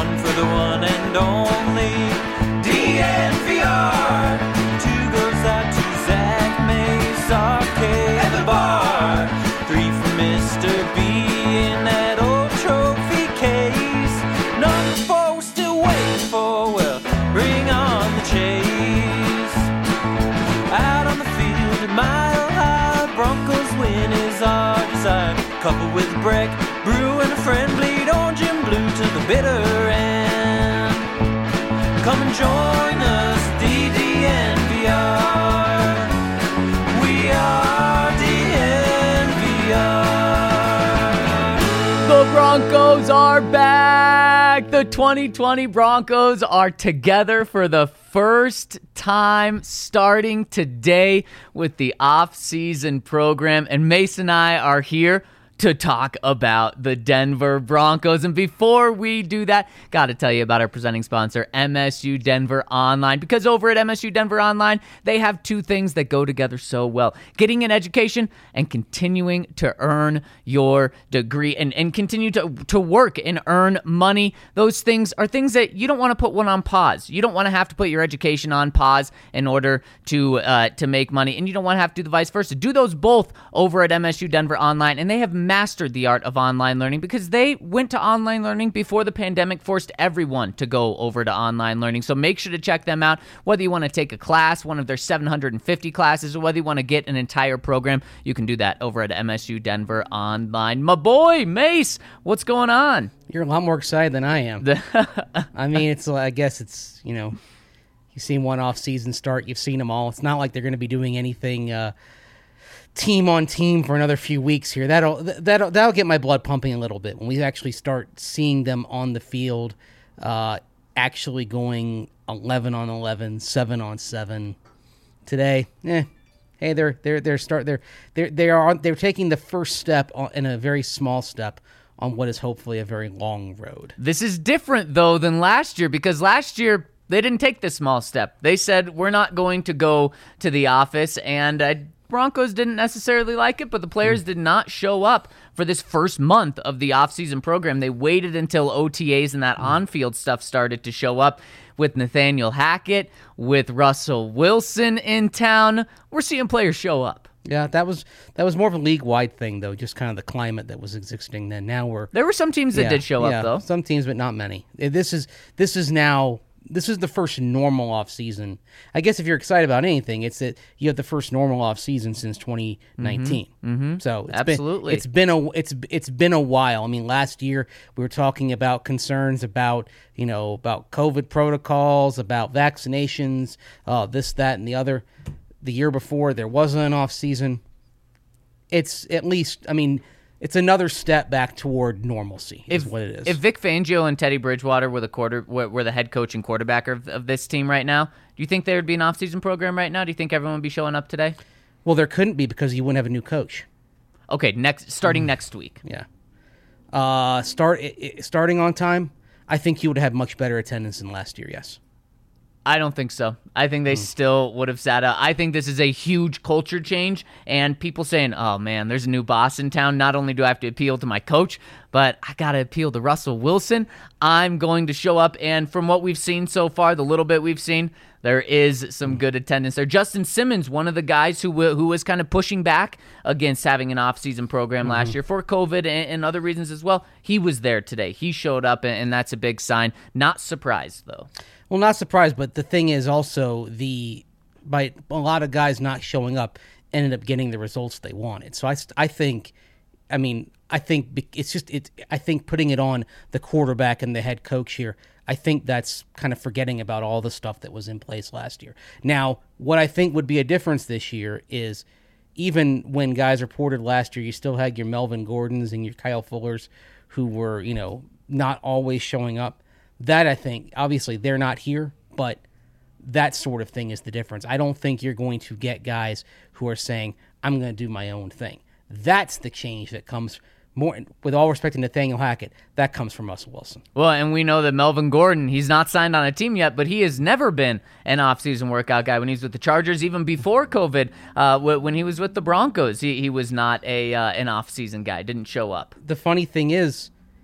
one for the one and only DNVR. Two goes out to Zach Mace, RK at the bar. Three for Mr. B in that old trophy case. Number four we're still waiting for, well, bring on the chase. Out on the field at Mile High, Broncos win is our desire. Coupled with Breck, Brew and a friend, bleed orange and blue to the bitter end. Come and join us, DDNVR. We are DNVR. The Broncos are back. The 2020 Broncos are together for the first time starting today with the off-season program. And Mason and I are here to talk about the Denver Broncos. And before we do that, got to tell you about our presenting sponsor, MSU Denver Online. Because over at MSU Denver Online, they have two things that go together so well: getting an education and continuing to earn your degree and continue to work and earn money. Those things are things that you don't want to put one on pause. You don't want to have to put your education on pause in order to make money, and you don't want to have to do the vice versa. Do those both over at MSU Denver Online, and they have mastered the art of online learning because they went to online learning before the pandemic forced everyone to go over to online learning. So make sure to check them out. Whether you want to take a class, one of their 750 classes, or whether you want to get an entire program, you can do that over at MSU Denver Online. My boy, Mace, what's going on? You're a lot more excited than I am. I mean, I guess it's, you've seen one off-season start. You've seen them all. It's not like they're going to be doing anything team on team for another few weeks here. That'll get my blood pumping a little bit when we actually start seeing them on the field, actually going 11 on 11, 7 on 7. Today, hey, they're taking the first step in a very small step on what is hopefully a very long road. This is different though than last year, because last year they didn't take the small step. They said, we're not going to go to the office, and Broncos didn't necessarily like it, but the players did not show up for this first month of the offseason program. They waited until OTAs and that on-field stuff started to show up. With Nathaniel Hackett, with Russell Wilson in town, we're seeing players show up. Yeah, that was more of a league-wide thing, though, just kind of the climate that was existing then. Now there were some teams that did show up, though. Some teams, but not many. This is the first normal offseason. I guess if you're excited about anything, it's that you have the first normal offseason since 2019. Mm-hmm. So absolutely, it's been a while. I mean, last year we were talking about concerns about COVID protocols, about vaccinations, this, that, and the other. The year before there wasn't an offseason. It's at least, it's another step back toward normalcy, is what it is. If Vic Fangio and Teddy Bridgewater were the head coach and quarterback of this team right now, do you think there would be an offseason program right now? Do you think everyone would be showing up today? Well, there couldn't be because you wouldn't have a new coach. Okay, starting next week. Yeah. Starting on time, I think you would have much better attendance than last year, yes. I don't think so. I think they still would have sat out. I think this is a huge culture change, and people saying, oh, man, there's a new boss in town. Not only do I have to appeal to my coach, but I got to appeal to Russell Wilson. I'm going to show up, and from what we've seen so far, the little bit we've seen, there is some good attendance there. Justin Simmons, one of the guys who was kind of pushing back against having an off-season program last year for COVID and other reasons as well, he was there today. He showed up, and that's a big sign. Not surprised, though. Well, not surprised, but the thing is also by a lot of guys not showing up ended up getting the results they wanted. So I think putting it on the quarterback and the head coach here, I think that's kind of forgetting about all the stuff that was in place last year. Now, what I think would be a difference this year is even when guys reported last year, you still had your Melvin Gordons and your Kyle Fullers who were, not always showing up. That, I think, obviously they're not here, but that sort of thing is the difference. I don't think you're going to get guys who are saying, I'm going to do my own thing. That's the change that comes more, with all respect to Nathaniel Hackett, that comes from Russell Wilson. Well, and we know that Melvin Gordon, he's not signed on a team yet, but he has never been an off-season workout guy. When he was with the Chargers, even before COVID, when he was with the Broncos, he was not an off-season guy, didn't show up. The funny thing is,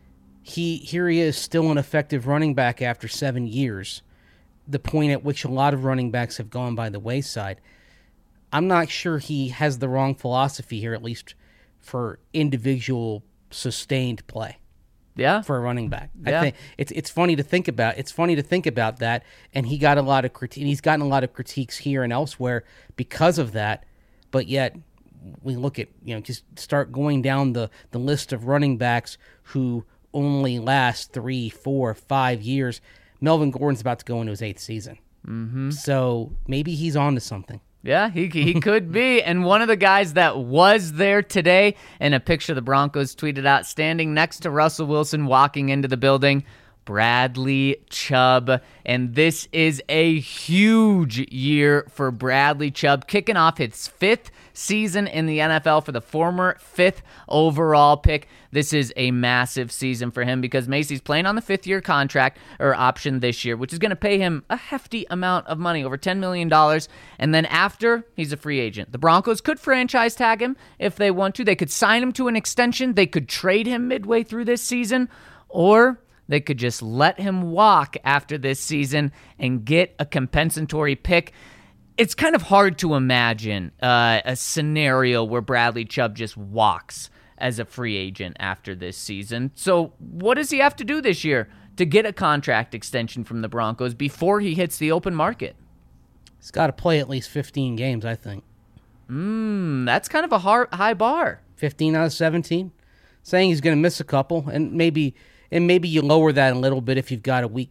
here he is, still an effective running back after 7 years, the point at which a lot of running backs have gone by the wayside. I'm not sure he has the wrong philosophy here, at least for individual sustained play. Yeah, for a running back. Yeah. I think it's funny to think about. It's funny to think about that, and he's gotten a lot of critiques here and elsewhere because of that. But yet, we look at just start going down the list of running backs who only last 3, 4, 5 years. Melvin Gordon's about to go into his 8th season, so maybe he's on to something. Yeah, he could be. And one of the guys that was there today, in a picture the Broncos tweeted out, standing next to Russell Wilson walking into the building, Bradley Chubb. And this is a huge year for Bradley Chubb, kicking off his 5th season in the NFL for the former 5th overall pick. This is a massive season for him because Macy's playing on the 5th-year contract or option this year, which is going to pay him a hefty amount of money, over $10 million. And then after, he's a free agent. The Broncos could franchise tag him if they want to. They could sign him to an extension. They could trade him midway through this season, or they could just let him walk after this season and get a compensatory pick. It's kind of hard to imagine a scenario where Bradley Chubb just walks as a free agent after this season. So what does he have to do this year to get a contract extension from the Broncos before he hits the open market? He's got to play at least 15 games, I think. That's kind of a high bar. 15 out of 17. Saying he's going to miss a couple, and maybe you lower that a little bit if you've got a week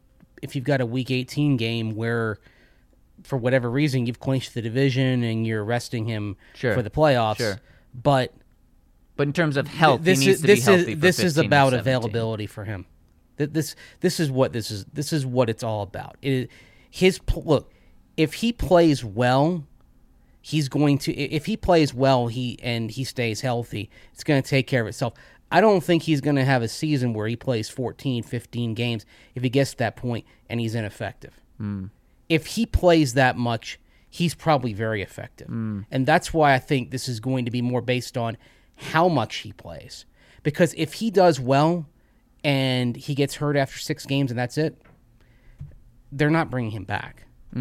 18 game where, for whatever reason, you've clinched the division and you're resting him for the playoffs. Sure. But in terms of health, he needs to be healthy for this is 15 about or 17. availability for him. This is what it's all about. Look, if he plays well, he's going to. If he plays well, he stays healthy, it's going to take care of itself. I don't think he's going to have a season where he plays 14, 15 games if he gets to that point and he's ineffective. If he plays that much, he's probably very effective. And that's why I think this is going to be more based on how much he plays. Because if he does well and he gets hurt after 6 games and that's it, they're not bringing him back.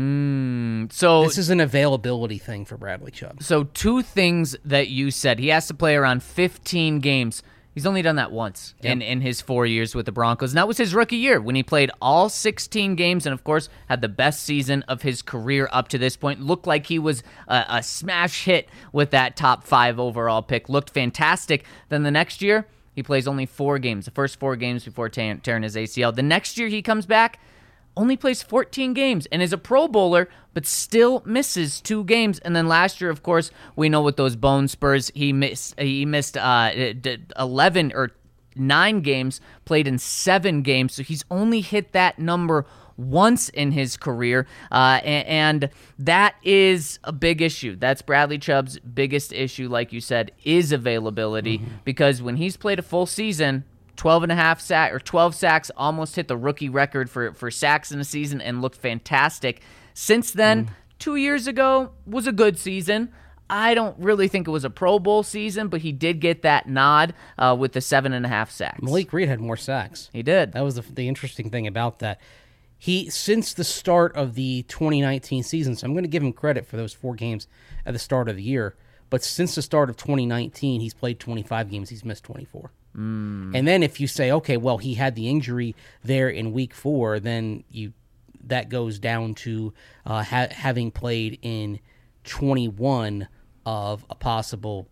So this is an availability thing for Bradley Chubb. So 2 things that you said. He has to play around 15 games. He's only done that once in his 4 years with the Broncos. And that was his rookie year when he played all 16 games and, of course, had the best season of his career up to this point. Looked like he was a smash hit with that top 5 overall pick. Looked fantastic. Then the next year, he plays only 4 games, the first 4 games before tearing his ACL. The next year he comes back, only plays 14 games and is a Pro Bowler, but still misses 2 games. And then last year, of course, we know with those bone spurs, he missed 11 or 9 games, played in 7 games. So he's only hit that number once in his career, and that is a big issue. That's Bradley Chubb's biggest issue, like you said, is availability, because when he's played a full season, 12 sacks, almost hit the rookie record for sacks in a season and looked fantastic. Since then, 2 years ago was a good season. I don't really think it was a Pro Bowl season, but he did get that nod with the 7.5 sacks. Malik Reed had more sacks. He did. That was the interesting thing about that. Since the start of the 2019 season, so I'm going to give him credit for those 4 games at the start of the year, but since the start of 2019, he's played 25 games, he's missed 24. And then if you say, okay, well, he had the injury there in week 4, then that goes down to having played in 21 of a possible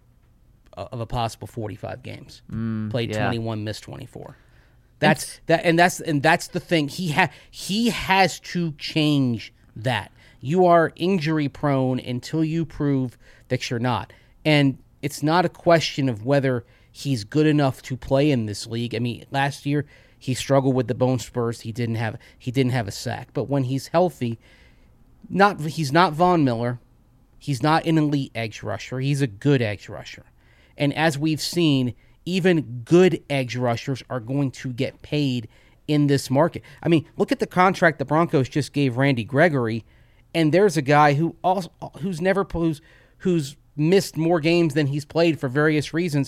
45 games. Played 21, missed 24. That's the thing. He has to change that. You are injury prone until you prove that you're not. And it's not a question of whether he's good enough to play in this league. I mean, last year he struggled with the bone spurs. He didn't have a sack. But when he's healthy, he's not Von Miller. He's not an elite edge rusher. He's a good edge rusher. And as we've seen, even good edge rushers are going to get paid in this market. I mean, look at the contract the Broncos just gave Randy Gregory, and there's a guy who's missed more games than he's played for various reasons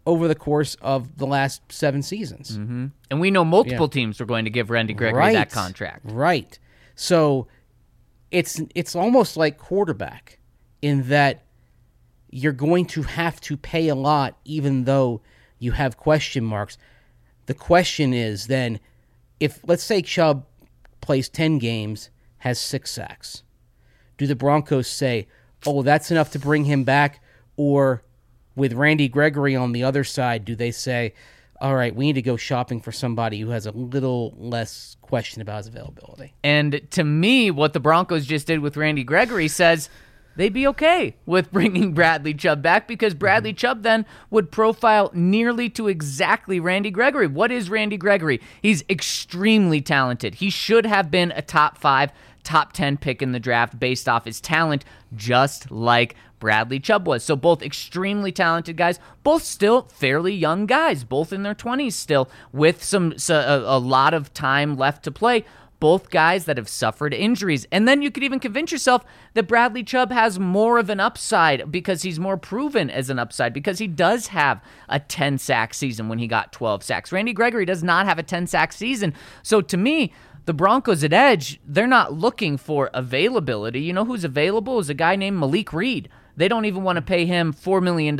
over the course of the last 7 seasons. And we know multiple teams are going to give Randy Gregory that contract. Right. So it's almost like quarterback in that you're going to have to pay a lot even though you have question marks. The question is then, if let's say Chubb plays 10 games, has 6 sacks, do the Broncos say, oh, that's enough to bring him back? Or with Randy Gregory on the other side, do they say, all right, we need to go shopping for somebody who has a little less question about his availability? And to me, what the Broncos just did with Randy Gregory says they'd be okay with bringing Bradley Chubb back, because Bradley Chubb then would profile nearly to exactly Randy Gregory. What is Randy Gregory? He's extremely talented. He should have been a top 5, top 10 pick in the draft based off his talent, just like Bradley Chubb was. So both extremely talented guys, both still fairly young guys, both in their 20s still, with a lot of time left to play. Both guys that have suffered injuries. And then you could even convince yourself that Bradley Chubb has more of an upside because he's more proven as an upside, because he does have a 10-sack season when he got 12 sacks. Randy Gregory does not have a 10-sack season. So to me, the Broncos at edge, they're not looking for availability. You know who's available is a guy named Malik Reed. They don't even want to pay him $4 million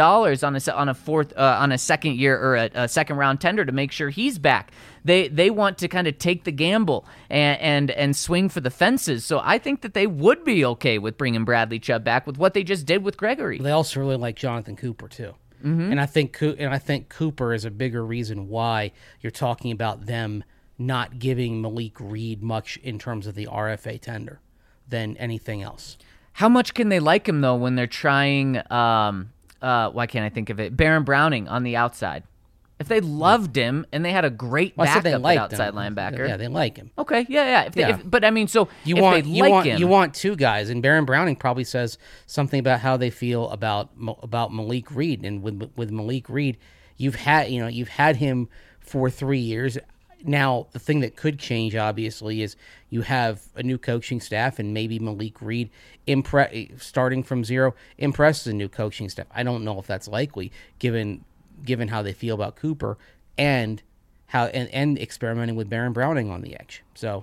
on a second year or a second round tender to make sure he's back. They want to kind of take the gamble and swing for the fences. So I think that they would be okay with bringing Bradley Chubb back with what they just did with Gregory. They also really like Jonathan Cooper too, and I think Cooper is a bigger reason why you're talking about them not giving Malik Reed much in terms of the RFA tender than anything else. How much can they like him, though, when they're trying, why can't I think of it, Baron Browning on the outside? If they loved him and they had a great backup at outside linebacker. Yeah, they like him. Okay, yeah. But, I mean, so you want 2 guys, and Baron Browning probably says something about how they feel about Malik Reed. And with Malik Reed, you've had him for 3 years. Now, the thing that could change, obviously, is you have a new coaching staff, and maybe Malik Reed, starting from zero, impresses a new coaching staff. I don't know if that's likely, given how they feel about Cooper and how and experimenting with Baron Browning on the edge. So,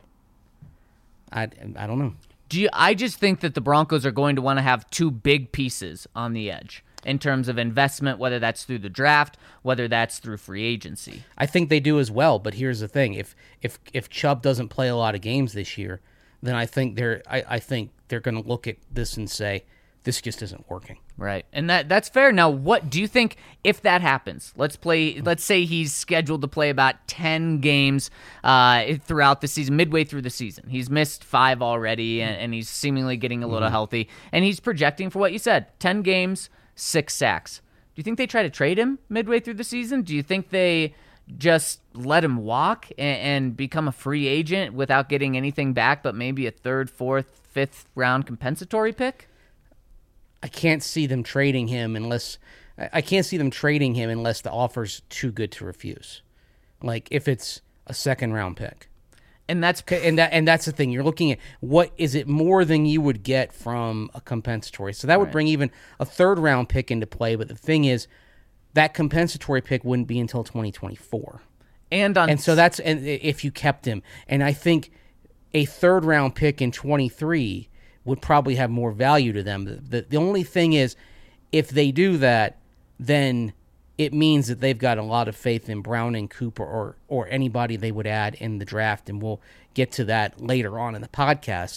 I don't know. I just think that the Broncos are going to want to have 2 big pieces on the edge in terms of investment, whether that's through the draft, whether that's through free agency. I think they do as well, but here's the thing. If Chubb doesn't play a lot of games this year, then I think they're going to look at this and say, this just isn't working. Right. And that's fair. Now, what do you think if that happens? Let's say he's scheduled to play about 10 games throughout the season, midway through the season. He's missed 5 already, and he's seemingly getting a little healthy. And he's projecting for what you said, 10 games, 6 sacks. Do you think they try to trade him midway through the season? Do you think they just let him walk and become a free agent without getting anything back but maybe a 3rd, 4th, 5th round compensatory pick? I can't see them trading him unless the offer's too good to refuse. Like if it's a 2nd round pick. And that's the thing. You're looking at what is it more than you would get from a compensatory. So that would bring even a 3rd round pick into play. But the thing is, that compensatory pick wouldn't be until 2024. And so that's if you kept him. And I think a 3rd round pick in 23 would probably have more value to them. The only thing is, if they do that, then it means that they've got a lot of faith in Browning, Cooper, or anybody they would add in the draft, and we'll get to that later on in the podcast.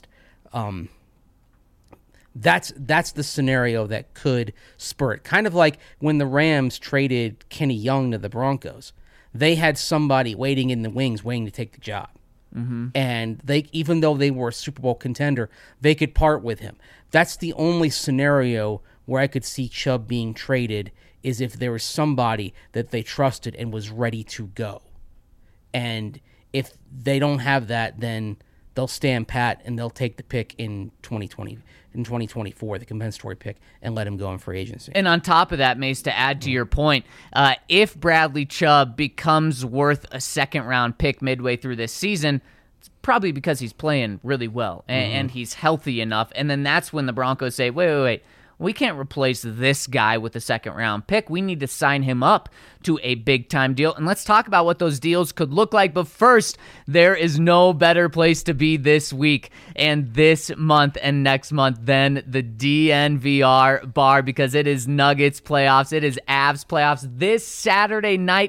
That's the scenario that could spur it. Kind of like when the Rams traded Kenny Young to the Broncos. They had somebody waiting in the wings, waiting to take the job. Mm-hmm. And even though they were a Super Bowl contender, they could part with him. That's the only scenario where I could see Chubb being traded, is if there was somebody that they trusted and was ready to go. And if they don't have that, then they'll stand pat and they'll take the pick in 2024, the compensatory pick, and let him go in free agency. And on top of that, Mace, to add to your point, if Bradley Chubb becomes worth a 2nd round pick midway through this season, it's probably because he's playing really well and he's healthy enough. And then that's when the Broncos say, wait. we can't replace this guy with a second-round pick. We need to sign him up to a big-time deal. And let's talk about what those deals could look like. But first, there is no better place to be this week and this month and next month than the DNVR bar, because it is Nuggets playoffs. It is Avs playoffs this Saturday night,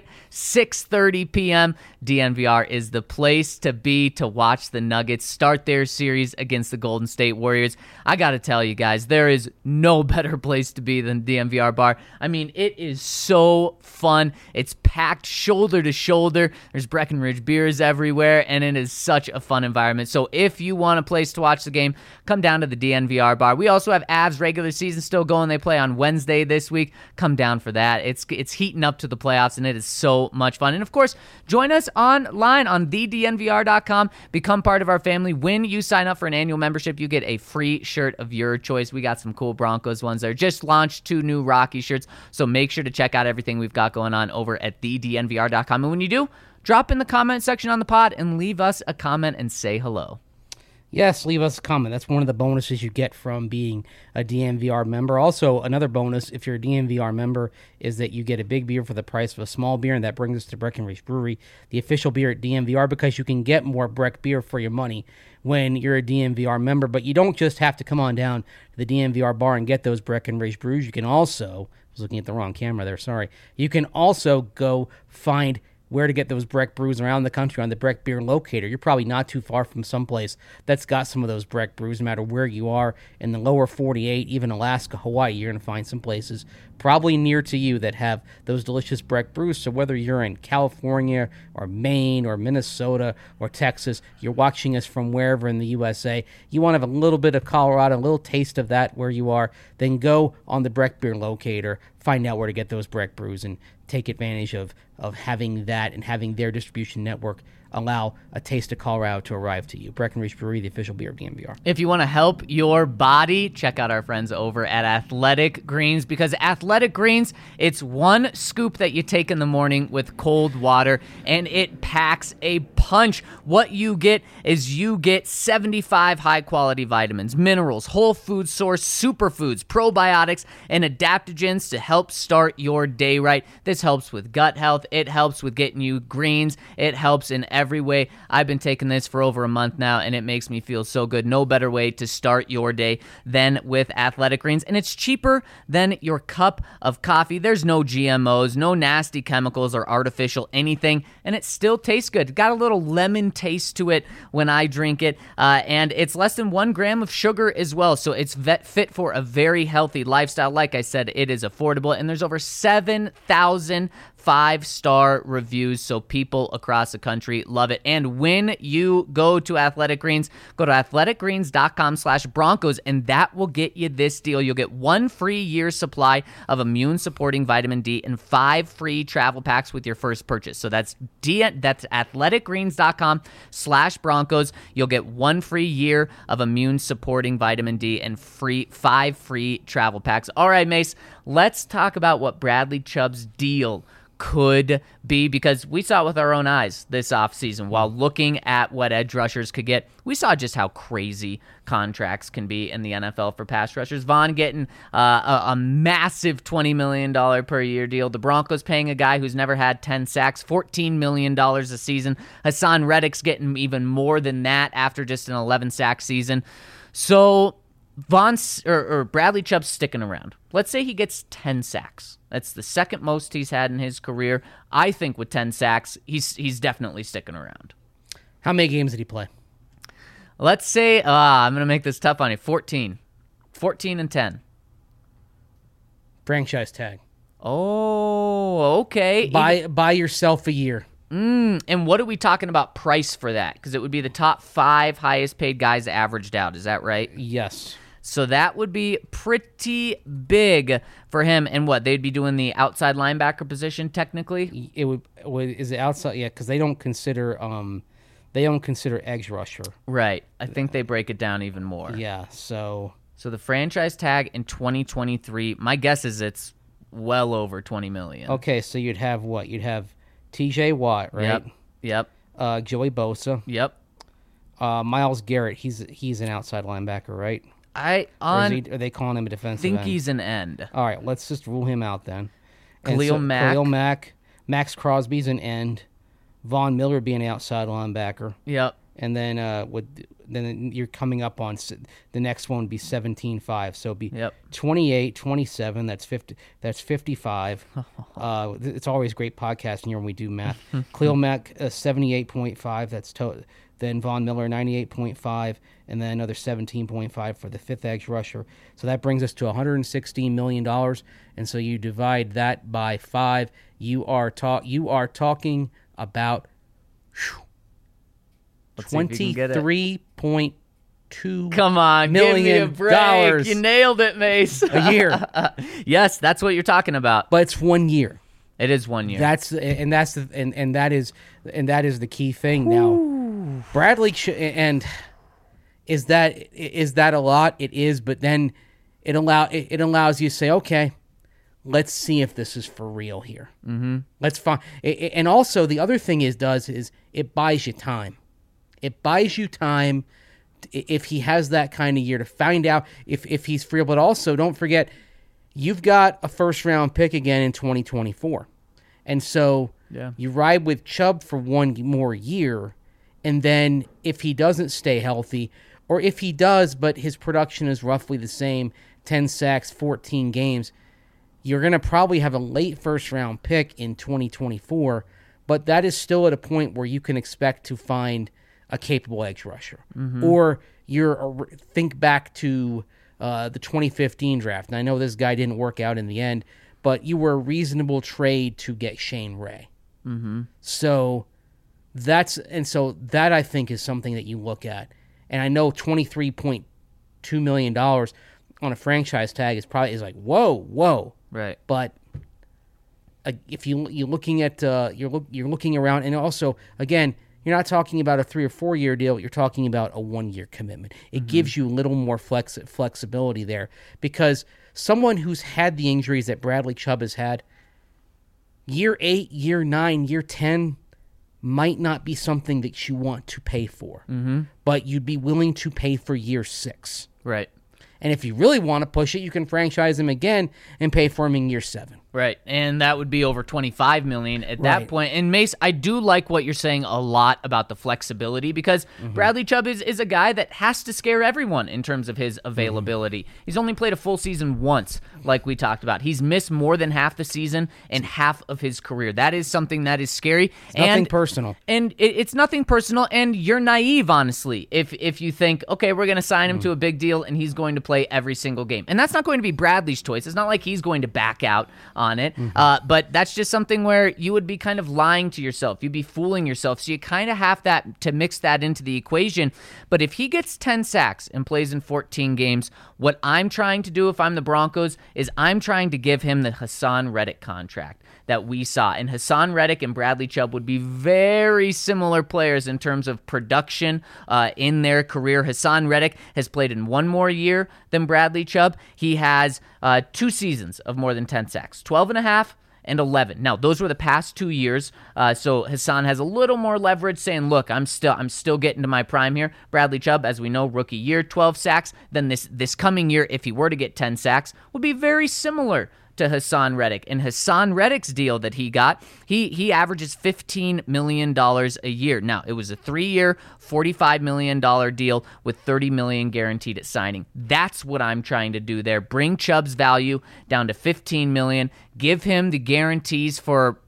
6:30 p.m. DNVR is the place to be to watch the Nuggets start their series against the Golden State Warriors. I got to tell you guys, there is no better place to be than DNVR bar. I mean, it is so fun. It's packed shoulder to shoulder. There's Breckenridge beers everywhere, and it is such a fun environment. So if you want a place to watch the game, come down to the DNVR bar. We also have Avs regular season still going. They play on Wednesday this week. Come down for that. It's heating up to the playoffs, and it is so much fun. And of course, join us online on thednvr.com. Become part of our family. When you sign up for an annual membership, you get a free shirt of your choice. We got some cool Broncos ones there. Just launched 2 new Rocky shirts, so make sure to check out everything we've got going on over at thednvr.com. And when you do, drop in the comment section on the pod and leave us a comment and say hello. Yes, leave us a comment. That's one of the bonuses you get from being a DNVR member. Also, another bonus, if you're a DNVR member, is that you get a big beer for the price of a small beer, and that brings us to Breckenridge Brewery, the official beer at DNVR, because you can get more Breck beer for your money when you're a DNVR member. But you don't just have to come on down to the DNVR bar and get those Breckenridge brews. You can also, I was looking at the wrong camera there, sorry. You can also go find where to get those Breck brews around the country on the Breck Beer Locator. You're probably not too far from someplace that's got some of those Breck brews, no matter where you are in the lower 48, even Alaska, Hawaii. You're going to find some places probably near to you that have those delicious Breck brews. So whether you're in California or Maine or Minnesota or Texas, you're watching us from wherever in the USA, you want to have a little bit of Colorado, a little taste of that where you are, then go on the Breck Beer Locator, find out where to get those Breck brews, and take advantage of having that and having their distribution network allow a taste of Colorado to arrive to you. Breckenridge Brewery, the official beer of DNVR. If you want to help your body, check out our friends over at Athletic Greens, because Athletic Greens, it's one scoop that you take in the morning with cold water, and it packs a punch. What you get is you get 75 high-quality vitamins, minerals, whole food source, superfoods, probiotics, and adaptogens to help start your day right. This helps with gut health. It helps with getting you greens. It helps in every way. I've been taking this for over a month now, and it makes me feel so good. No better way to start your day than with Athletic Greens, and it's cheaper than your cup of coffee. There's no GMOs, no nasty chemicals or artificial anything, and it still tastes good. Got a little lemon taste to it when I drink it, and it's less than 1 gram of sugar as well, so it's fit for a very healthy lifestyle. Like I said, it is affordable, and there's over 7,000 5-star reviews, so people across the country love it. And when you go to Athletic Greens, go to athleticgreens.com/Broncos, and that will get you this deal. You'll get 1 free year supply of immune-supporting vitamin D and 5 free travel packs with your first purchase. So that's athleticgreens.com/Broncos. You'll get 1 free year of immune-supporting vitamin D and 5 free travel packs. All right, Mace, let's talk about what Bradley Chubb's deal could be, because we saw it with our own eyes this offseason while looking at what edge rushers could get. We saw just how crazy contracts can be in the NFL for pass rushers. Vaughn getting a massive $20 million per year deal. The Broncos paying a guy who's never had 10 sacks, $14 million a season. Hassan Reddick's getting even more than that after just an 11-sack season. So Bradley Chubb's sticking around. Let's say he gets 10 sacks. That's the second most he's had in his career. I think with 10 sacks, he's definitely sticking around. How many games did he play? Let's say, I'm going to make this tough on you, 14. 14 and 10. Franchise tag. Oh, okay. Buy yourself a year. And what are we talking about price for that? Because it would be the top 5 highest paid guys averaged out. Is that right? Yes. So that would be pretty big for him. And what, they'd be doing the outside linebacker position technically? It would is it outside? Yeah, because they don't consider edge rusher. Right. I think they break it down even more. Yeah. So the franchise tag in 2023, my guess is it's well over $20 million. Okay, so you'd have what? You'd have T.J. Watt, right? Yep. Joey Bosa. Yep. Myles Garrett. He's an outside linebacker, right? Are they calling him a defensive think end? he's an end. All right, let's just rule him out then. Khalil Mack. Khalil Mack. Max Crosby's an end. Von Miller being an outside linebacker. Yep. And then then you're coming up on the next one would be 17-5. So it'd be 28, 27. That's 50. That's 55. It's always great podcasting here when we do math. Khalil Mack 78.5. That's then Von Miller 98.5, and then another 17.5 for the fifth edge rusher. So that brings us to $116 million. And so you divide that by 5. You are talking about 23.2 Come on, give me a break. You nailed it, Mace. A year. Yes, that's what you're talking about. But it's 1 year. It is 1 year. That is the key thing. Now, Bradley and is that a lot? It is, but then it allows you to say, okay, let's see if this is for real here. Mm-hmm. Let's find. And also the other thing is it buys you time. It buys you time if he has that kind of year to find out if he's free. But also don't forget, you've got a first round pick again in 2024, and so you ride with Chubb for 1 more year, and then if he doesn't stay healthy, or if he does but his production is roughly the same, 10 sacks, 14 games. You're going to probably have a late first-round pick in 2024, but that is still at a point where you can expect to find a capable edge rusher. Mm-hmm. Or think back to the 2015 draft. And I know this guy didn't work out in the end, but you were a reasonable trade to get Shane Ray. Mm-hmm. So that I think is something that you look at. And I know $23.2 million on a franchise tag is like, whoa. Right, but if you're looking at you're looking around, and also again, you're not talking about a 3 or 4 year deal. You're talking about a 1 year commitment. It gives you a little more flexibility there, because someone who's had the injuries that Bradley Chubb has had, year 8, year 9, year 10 might not be something that you want to pay for, but you'd be willing to pay for year 6. Right. And if you really want to push it, you can franchise him again and pay for him in year 7. Right, and that would be over $25 million at that point. And Mace, I do like what you're saying a lot about the flexibility, because Bradley Chubb is a guy that has to scare everyone in terms of his availability. He's only played a full season once, like we talked about. He's missed more than half the season and half of his career. That is something that is scary. It's nothing personal. And it's nothing personal, and you're naive, honestly, if you think, okay, we're going to sign him to a big deal and he's going to play every single game. And that's not going to be Bradley's choice. It's not like he's going to back out on it. But that's just something where you would be kind of lying to yourself. You'd be fooling yourself. So you kind of have to mix that into the equation. But if he gets 10 sacks and plays in 14 games, what I'm trying to do if I'm the Broncos is I'm trying to give him the Hassan Reddick contract that we saw. And Hassan Reddick and Bradley Chubb would be very similar players in terms of production in their career. Hassan Reddick has played in 1 more year than Bradley Chubb. He has 2 seasons of more than 10 sacks, 12.5 and 11. Now, those were the past 2 years, so Hassan has a little more leverage, saying, look, I'm still getting to my prime here. Bradley Chubb, as we know, rookie year, 12 sacks. Then this coming year, if he were to get 10 sacks, would be very similar to Hassan Reddick. And Hassan Reddick's deal that he got, he averages $15 million a year. Now, it was a 3-year, $45 million deal with $30 million guaranteed at signing. That's what I'm trying to do there. Bring Chubb's value down to $15 million. Give him the guarantees for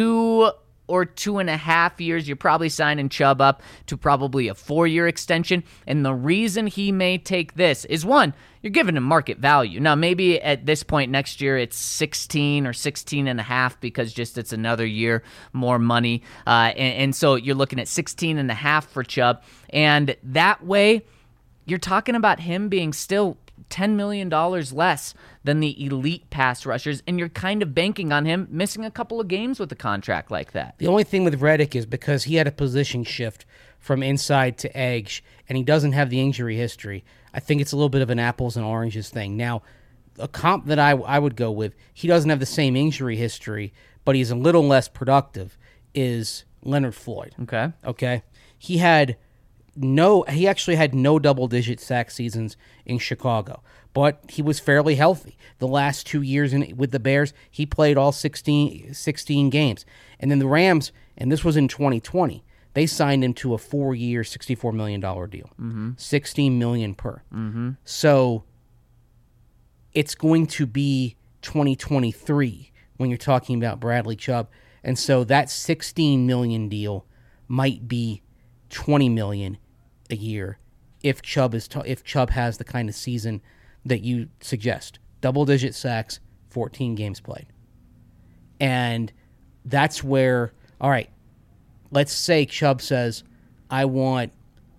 2 or 2.5 years. You're probably signing Chubb up to probably a 4-year extension. And the reason he may take this is, one, you're giving him market value. Now, maybe at this point next year, it's 16 or 16.5 because just it's another year, more money. And so you're looking at 16.5 for Chubb. And that way, you're talking about him being still $10 million less than the elite pass rushers, and you're kind of banking on him missing a couple of games with a contract like that. The only thing with Reddick is because he had a position shift from inside to edge, and he doesn't have the injury history. I think it's a little bit of an apples and oranges thing. Now, a comp that I would go with, he doesn't have the same injury history, but he's a little less productive, is Leonard Floyd. Okay. He had he actually had no double-digit sack seasons in Chicago, but he was fairly healthy. The last 2 years with the Bears, he played all 16 games. And then the Rams, and this was in 2020, they signed him to a 4-year, $64 million deal. $16 million per. So it's going to be 2023 when you're talking about Bradley Chubb. And so that $16 million deal might be $20 million a year if Chubb has the kind of season that you suggest. Double-digit sacks, 14 games played. And that's where, all right, let's say Chubb says, I want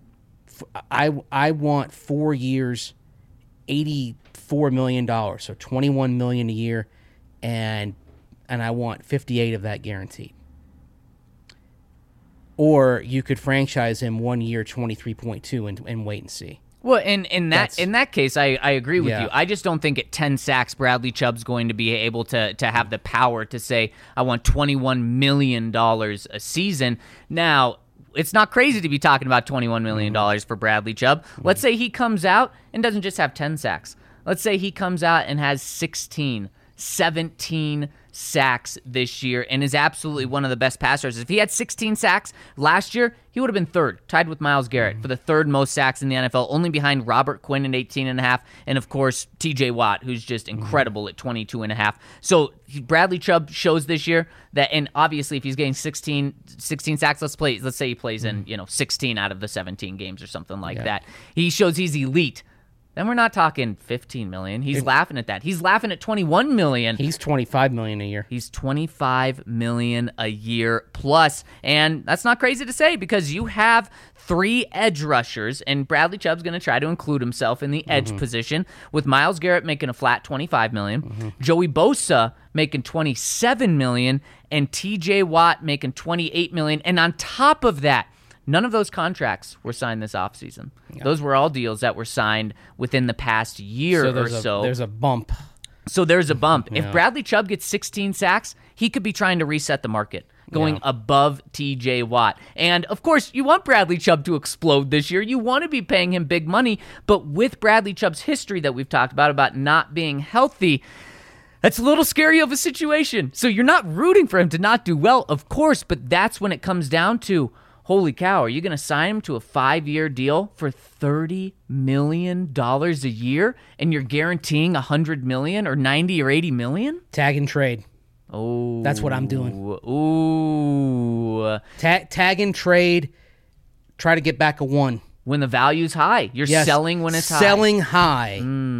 4 years, $84 million, so $21 million a year, and I want 58 of that guaranteed. Or you could franchise him 1 year, 23.2, and wait and see. Well, in that case, I agree with you. I just don't think at 10 sacks, Bradley Chubb's going to be able to have the power to say, I want $21 million a season. Now, it's not crazy to be talking about $21 million for Bradley Chubb. Let's say he comes out and doesn't just have 10 sacks. Let's say he comes out and has 16, 17 sacks this year and is absolutely one of the best passers. If he had 16 sacks last year, he would have been third, tied with Myles Garrett for the third most sacks in the NFL, only behind Robert Quinn at 18.5, and of course TJ Watt, who's just incredible at 22.5. So Bradley Chubb shows this year that, and obviously if he's getting 16 sacks, let's say he plays in 16 out of the 17 games or something like that. He shows he's elite. Then we're not talking $15 million. He's laughing at that. He's laughing at $21 million. He's $25 million a year. He's $25 million a year plus. And that's not crazy to say because you have 3 edge rushers, and Bradley Chubb's going to try to include himself in the edge position, with Myles Garrett making a flat $25 million, Joey Bosa making $27 million, and TJ Watt making $28 million. And on top of that, none of those contracts were signed this offseason. Yeah. Those were all deals that were signed within the past year or so. There's a bump. So there's a bump. Yeah. If Bradley Chubb gets 16 sacks, he could be trying to reset the market, going above TJ Watt. And, of course, you want Bradley Chubb to explode this year. You want to be paying him big money. But with Bradley Chubb's history that we've talked about not being healthy, that's a little scary of a situation. So you're not rooting for him to not do well, of course, but that's when it comes down to, holy cow, are you going to sign him to a 5-year deal for $30 million a year and you're guaranteeing $100 million or $90 or $80 million? Tag and trade. Oh. That's what I'm doing. Ooh. Tag and trade, try to get back a 1. When the value's high. You're selling when it's high. Selling high.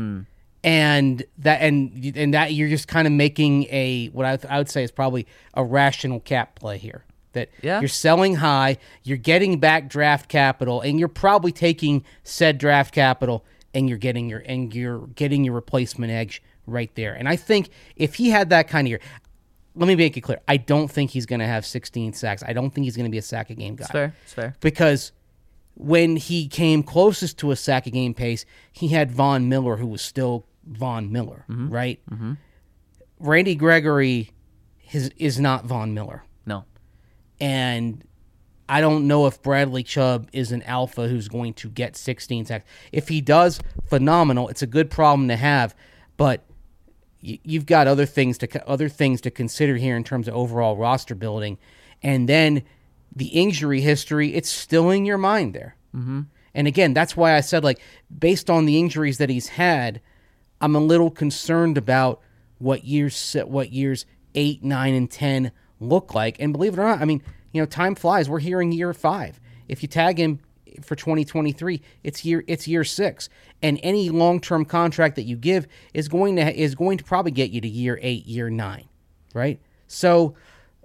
And that you're just kind of making what I would say is probably a rational cap play here. That you're selling high, you're getting back draft capital, and you're probably taking said draft capital, and you're getting your replacement edge right there. And I think if he had that kind of year, let me make it clear, I don't think he's going to have 16 sacks. I don't think he's going to be a sack a game guy. It's fair. Because when he came closest to a sack a game pace, he had Von Miller, who was still Von Miller, right? Randy Gregory is not Von Miller. No. And I don't know if Bradley Chubb is an alpha who's going to get 16 sacks. If he does, phenomenal. It's a good problem to have, but you've got other things to consider here in terms of overall roster building. And then the injury history, it's still in your mind there. And again, that's why I said, based on the injuries that he's had, I'm a little concerned about what years 8, 9, and 10 look like. And believe it or not, time flies. We're here in year 5. If you tag him for 2023, it's year 6. And any long-term contract that you give is going to probably get you to year 8, year 9, right? So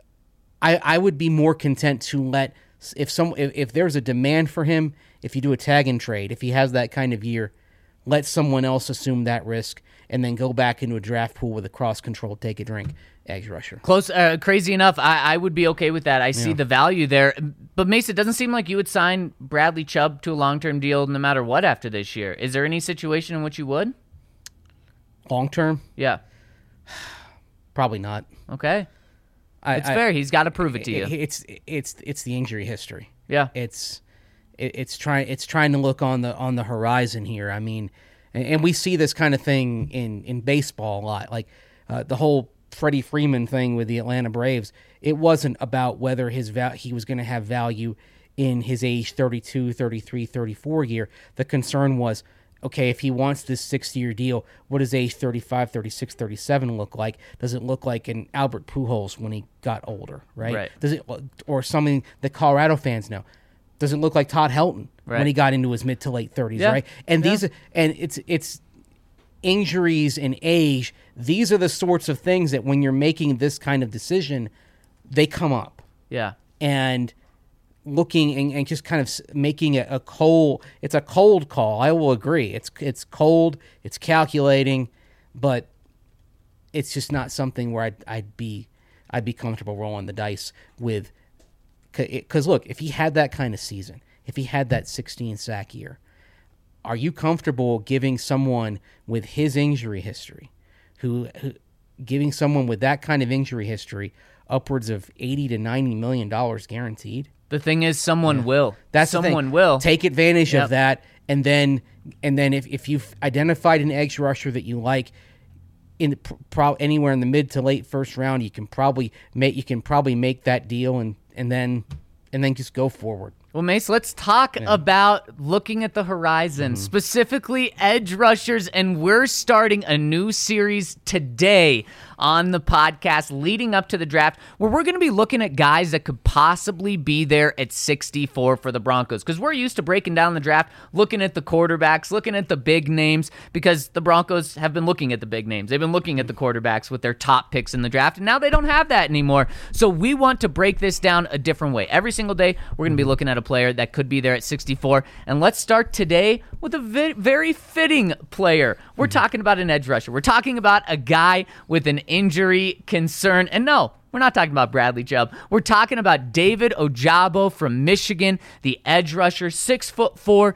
I would be more content to let if there's a demand for him, if you do a tag and trade, if he has that kind of year, let someone else assume that risk and then go back into a draft pool with a cross-control, take a drink, edge rusher. Close, crazy enough, I would be okay with that. I see the value there. But, Mace, it doesn't seem like you would sign Bradley Chubb to a long-term deal no matter what after this year. Is there any situation in which you would? Long-term? Yeah. Probably not. Okay. It's fair. He's got to prove it to you. It's the injury history. Yeah. it's trying to look on the horizon here. I mean, and we see this kind of thing in baseball a lot. Like the whole Freddie Freeman thing with the Atlanta Braves. It wasn't about whether he was going to have value in his age 32, 33, 34 year. The concern was, okay, if he wants this 6-year deal, what does age 35, 36, 37 look like? Does it look like an Albert Pujols when he got older, right? Does it, or something that Colorado fans know? Does it look like Todd Helton when he got into his mid to late 30s, right? And it's injuries and age. These are the sorts of things that when you're making this kind of decision, they come up. Yeah. And looking and just kind of making it a cold call. I will agree. It's cold, it's calculating, but it's just not something where I'd be comfortable rolling the dice with. Because look, if he had that kind of season, if he had that 16 sack year, are you comfortable giving someone with his injury history, giving someone with that kind of injury history upwards of $80 to $90 million guaranteed? The thing is, someone will. That's someone will take advantage of that, and then if you've identified an edge rusher that you like anywhere in the mid to late first round, you can probably make that deal and then just go forward. Well, Mace, let's talk about looking at the horizon, specifically edge rushers, and we're starting a new series today on the podcast leading up to the draft where we're going to be looking at guys that could possibly be there at 64 for the Broncos, because we're used to breaking down the draft, looking at the quarterbacks, looking at the big names, because the Broncos have been looking at the big names. They've been looking at the quarterbacks with their top picks in the draft, and now they don't have that anymore. So we want to break this down a different way. Every single day, we're going to be looking at a player that could be there at 64, and let's start today with a very fitting player. We're talking about an edge rusher. We're talking about a guy with an injury concern, and no, we're not talking about Bradley Chubb. We're talking about David Ojabo from Michigan, the edge rusher, 6'4",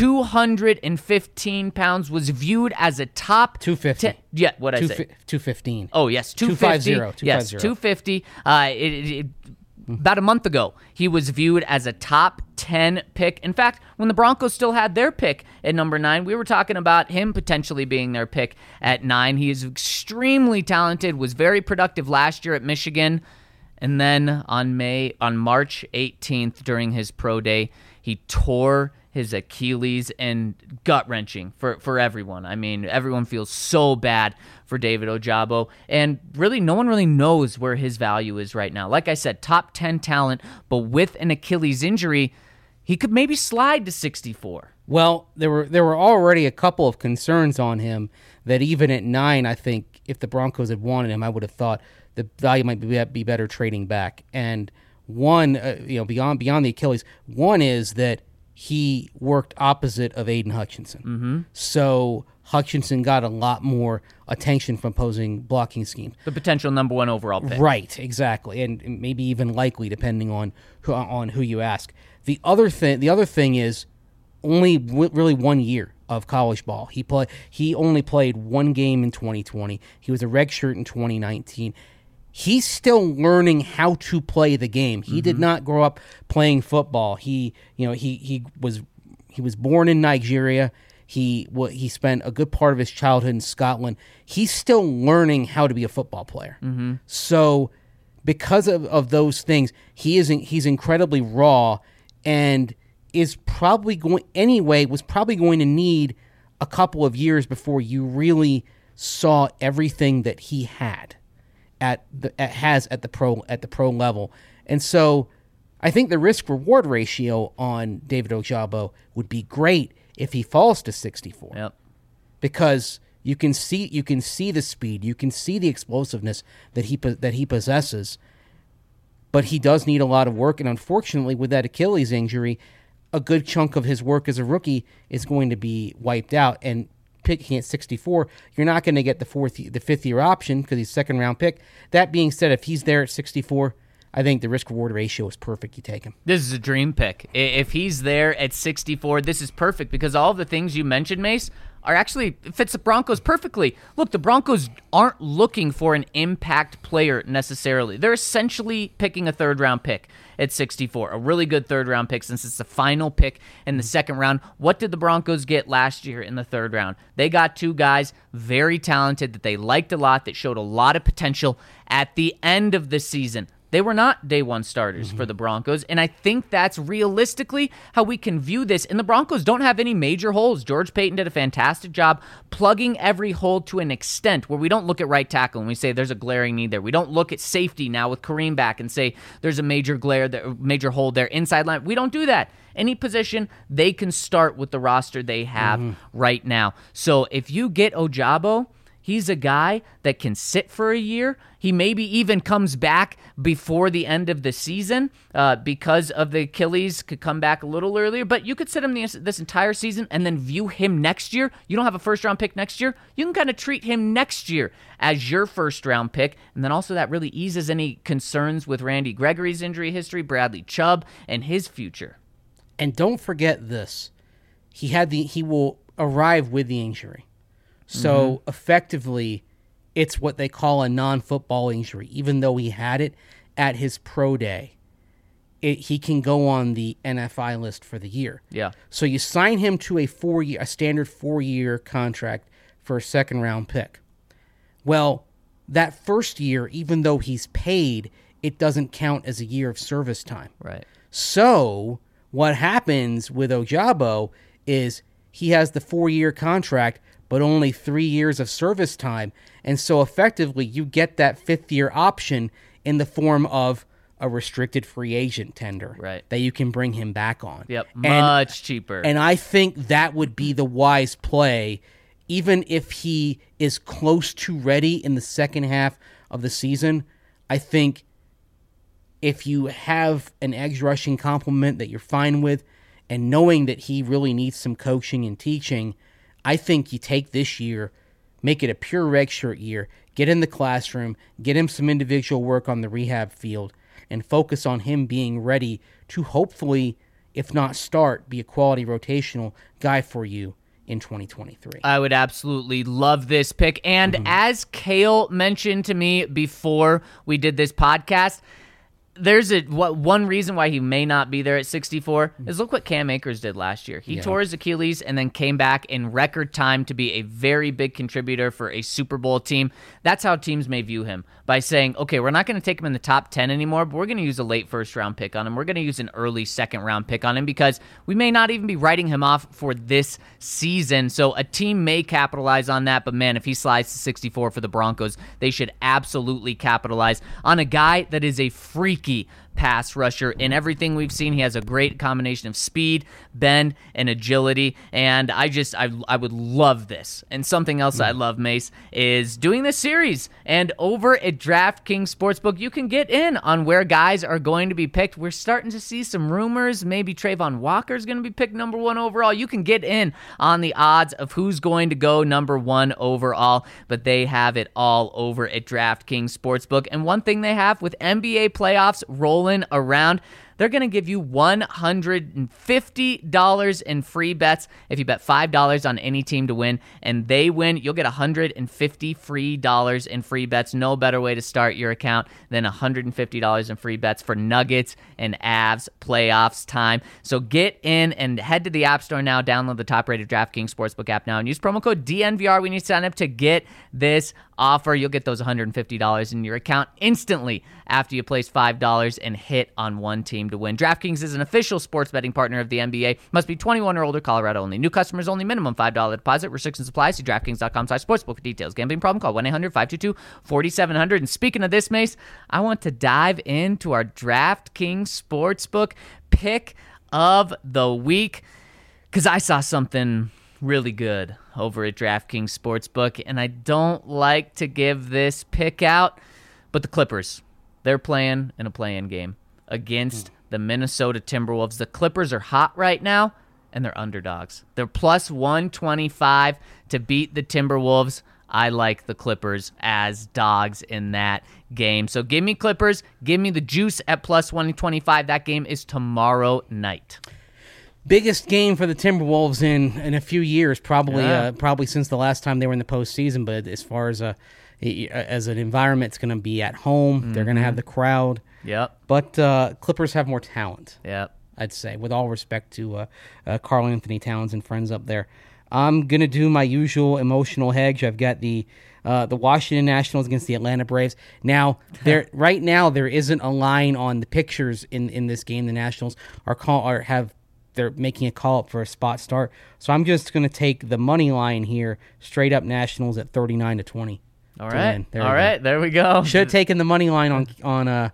215 pounds, was viewed as a top 250. What I say? 215. Oh yes, 250. 250. Yes, 250. About a month ago, he was viewed as a top 10 pick. In fact, when the Broncos still had their pick at number 9, we were talking about him potentially being their pick at 9. He is extremely talented, was very productive last year at Michigan. And then on March 18th, during his pro day, he tore his Achilles, and gut-wrenching for everyone. I mean, everyone feels so bad for David Ojabo, and really no one really knows where his value is right now. Like I said, top 10 talent, but with an Achilles injury, he could maybe slide to 64. Well, there were already a couple of concerns on him that even at 9, I think if the Broncos had wanted him, I would have thought the value might be better trading back. And one, beyond the Achilles, one is that he worked opposite of Aiden Hutchinson. So Hutchinson got a lot more attention from opposing blocking schemes. The potential number 1 overall pick. Right, exactly, and maybe even likely depending on who you ask. The other thing is only really 1 year of college ball. He only played 1 game in 2020. He was a redshirt in 2019. He's still learning how to play the game. He did not grow up playing football. He was born in Nigeria. He spent a good part of his childhood in Scotland. He's still learning how to be a football player. So because of those things, he's incredibly raw, and was probably going to need a couple of years before you really saw everything that he has at the pro level. And so I think the risk reward ratio on David Ojabo would be great if he falls to 64. Yep. Because you can see the speed, you can see the explosiveness that he possesses, but he does need a lot of work, and unfortunately with that Achilles injury, a good chunk of his work as a rookie is going to be wiped out. And picking at 64, you're not going to get the 5th year option because he's second round pick. That being said, if he's there at 64, I think the risk-reward ratio is perfect. You take him. This is a dream pick. If he's there at 64, this is perfect because all of the things you mentioned, Mace, are actually fits the Broncos perfectly. Look, the Broncos aren't looking for an impact player necessarily. They're essentially picking a third-round pick at 64, a really good third-round pick since it's the final pick in the second round. What did the Broncos get last year in the third round? They got two guys very talented that they liked a lot, that showed a lot of potential at the end of the season. They were not day one starters for the Broncos, and I think that's realistically how we can view this. And the Broncos don't have any major holes. George Paton did a fantastic job plugging every hole to an extent where we don't look at right tackle and we say there's a glaring need there. We don't look at safety now with Kareem back and say there's a major hole there. Inside line, we don't do that. Any position, they can start with the roster they have right now. So if you get Ojabo, he's a guy that can sit for a year. He maybe even comes back before the end of the season because of the Achilles, could come back a little earlier. But you could sit him this entire season and then view him next year. You don't have a first-round pick next year. You can kind of treat him next year as your first-round pick. And then also that really eases any concerns with Randy Gregory's injury history, Bradley Chubb, and his future. And don't forget this. He will arrive with the injury. So effectively, it's what they call a non-football injury. Even though he had it at his pro day, he can go on the NFI list for the year. Yeah. So you sign him to a standard 4-year contract for a second-round pick. Well, that first year, even though he's paid, it doesn't count as a year of service time. Right. So what happens with Ojabo is he has the 4-year contract, but only 3 years of service time. And so effectively, you get that 5th-year option in the form of a restricted free agent tender that you can bring him back on. Yep, much cheaper. And I think that would be the wise play, even if he is close to ready in the second half of the season. I think if you have an edge rushing complement that you're fine with, and knowing that he really needs some coaching and teaching, I think you take this year, make it a pure redshirt year, get in the classroom, get him some individual work on the rehab field, and focus on him being ready to hopefully, if not start, be a quality rotational guy for you in 2023. I would absolutely love this pick. And as Kale mentioned to me before we did this podcast, there's one reason why he may not be there at 64 is look what Cam Akers did last year. He tore his Achilles and then came back in record time to be a very big contributor for a Super Bowl team. That's how teams may view him, by saying, okay, we're not going to take him in the top 10 anymore, but we're going to use a late first-round pick on him. We're going to use an early second-round pick on him because we may not even be writing him off for this season. So a team may capitalize on that, but man, if he slides to 64 for the Broncos, they should absolutely capitalize on a guy that is a freaky pass rusher. In everything we've seen, he has a great combination of speed, bend, and agility, and I would love this. And something else I love, Mace, is doing this series. And over at DraftKings Sportsbook, you can get in on where guys are going to be picked. We're starting to see some rumors. Maybe Trayvon Walker is going to be picked number 1 overall. You can get in on the odds of who's going to go number 1 overall, but they have it all over at DraftKings Sportsbook. And one thing they have with NBA playoffs rolling around, they're going to give you $150 in free bets if you bet $5 on any team to win, and they win. You'll get $150 free dollars in free bets. No better way to start your account than $150 in free bets for Nuggets and Avs playoffs time. So get in and head to the App Store now. Download the top-rated DraftKings Sportsbook app now and use promo code DNVR when you sign up to get this offer. You'll get those $150 in your account instantly after you place $5 and hit on one team to win. DraftKings is an official sports betting partner of the NBA. Must be 21 or older, Colorado only. New customers only, minimum $5 deposit. Restrictions apply. See DraftKings.com/sportsbook for details. Gambling problem? Call 1-800-522-4700. And speaking of this, Mace, I want to dive into our DraftKings Sportsbook pick of the week because I saw something really good over at DraftKings Sportsbook, and I don't like to give this pick out, but the Clippers, they're playing in a play-in game against the Minnesota Timberwolves. The Clippers are hot right now, and they're underdogs. They're plus 125 to beat the Timberwolves. I like the Clippers as dogs in that game. So give me Clippers. Give me the juice at plus 125. That game is tomorrow night. Biggest game for the Timberwolves in a few years, probably since the last time they were in the postseason. But as far as an environment, it's going to be at home. They're going to have the crowd. Yep. But Clippers have more talent. Yep. I'd say, with all respect to Karl Anthony Towns and friends up there. I'm going to do my usual emotional hedge. I've got the Washington Nationals against the Atlanta Braves. Now, right now, there isn't a line on the pictures in this game. The Nationals they're making a call up for a spot start. So I'm just going to take the money line here, straight up Nationals at 39-20. All right. There we go. Should have taken the money line on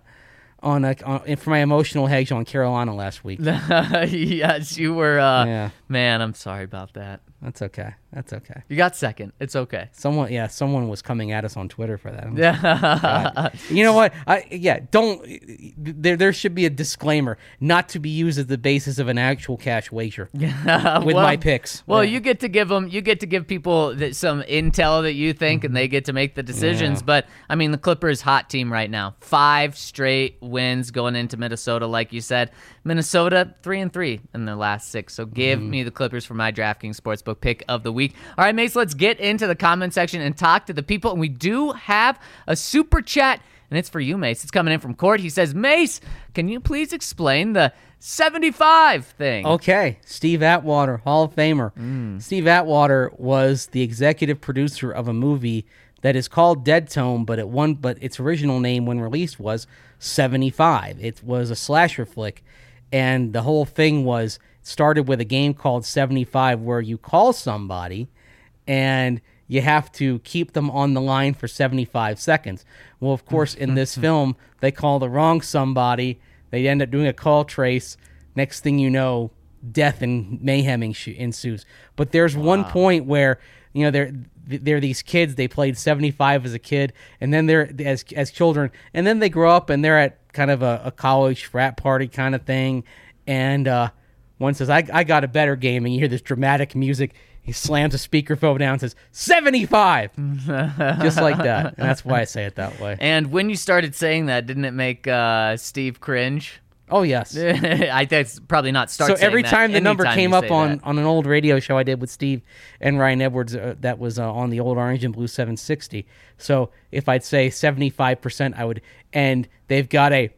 for my emotional hedge on Carolina last week. Yes, you were. Man, I'm sorry about that. That's okay. You got second. It's okay. Someone was coming at us on Twitter for that. Yeah. You know what? Don't. There should be a disclaimer not to be used as the basis of an actual cash wager with my picks. Well, you get to give people some intel that you think, and they get to make the decisions. Yeah. But I mean, the Clippers hot team right now, 5 straight wins going into Minnesota, like you said. Minnesota 3-3 in their last 6. So give me the Clippers for my DraftKings Sportsbook pick of the week. All right, Mace, let's get into the comment section and talk to the people. And we do have a super chat, and it's for you, Mace. It's coming in from Court. He says, Mace, can you please explain the 75 thing? Okay, Steve Atwater, Hall of Famer. Steve Atwater was the executive producer of a movie that is called Dead Tone, but its original name when released was 75. It was a slasher flick, and the whole thing started with a game called 75 where you call somebody and you have to keep them on the line for 75 seconds. Well, of course, in this film, they call the wrong somebody. They end up doing a call trace. Next thing you know, death and mayhem ensues. But there's one point where, they're these kids. They played 75 as a kid, and then they're as children, and then they grow up and they're at kind of a college frat party kind of thing, and one says, I got a better game, and you hear this dramatic music. He slams a speakerphone down and says, 75! Just like that. And that's why I say it that way. And when you started saying that, didn't it make Steve cringe? Oh, yes. I think it's probably not So every time the number came up on an old radio show I did with Steve and Ryan Edwards, that was on the old Orange and Blue 760. So if I'd say 75%, I would, and they've got a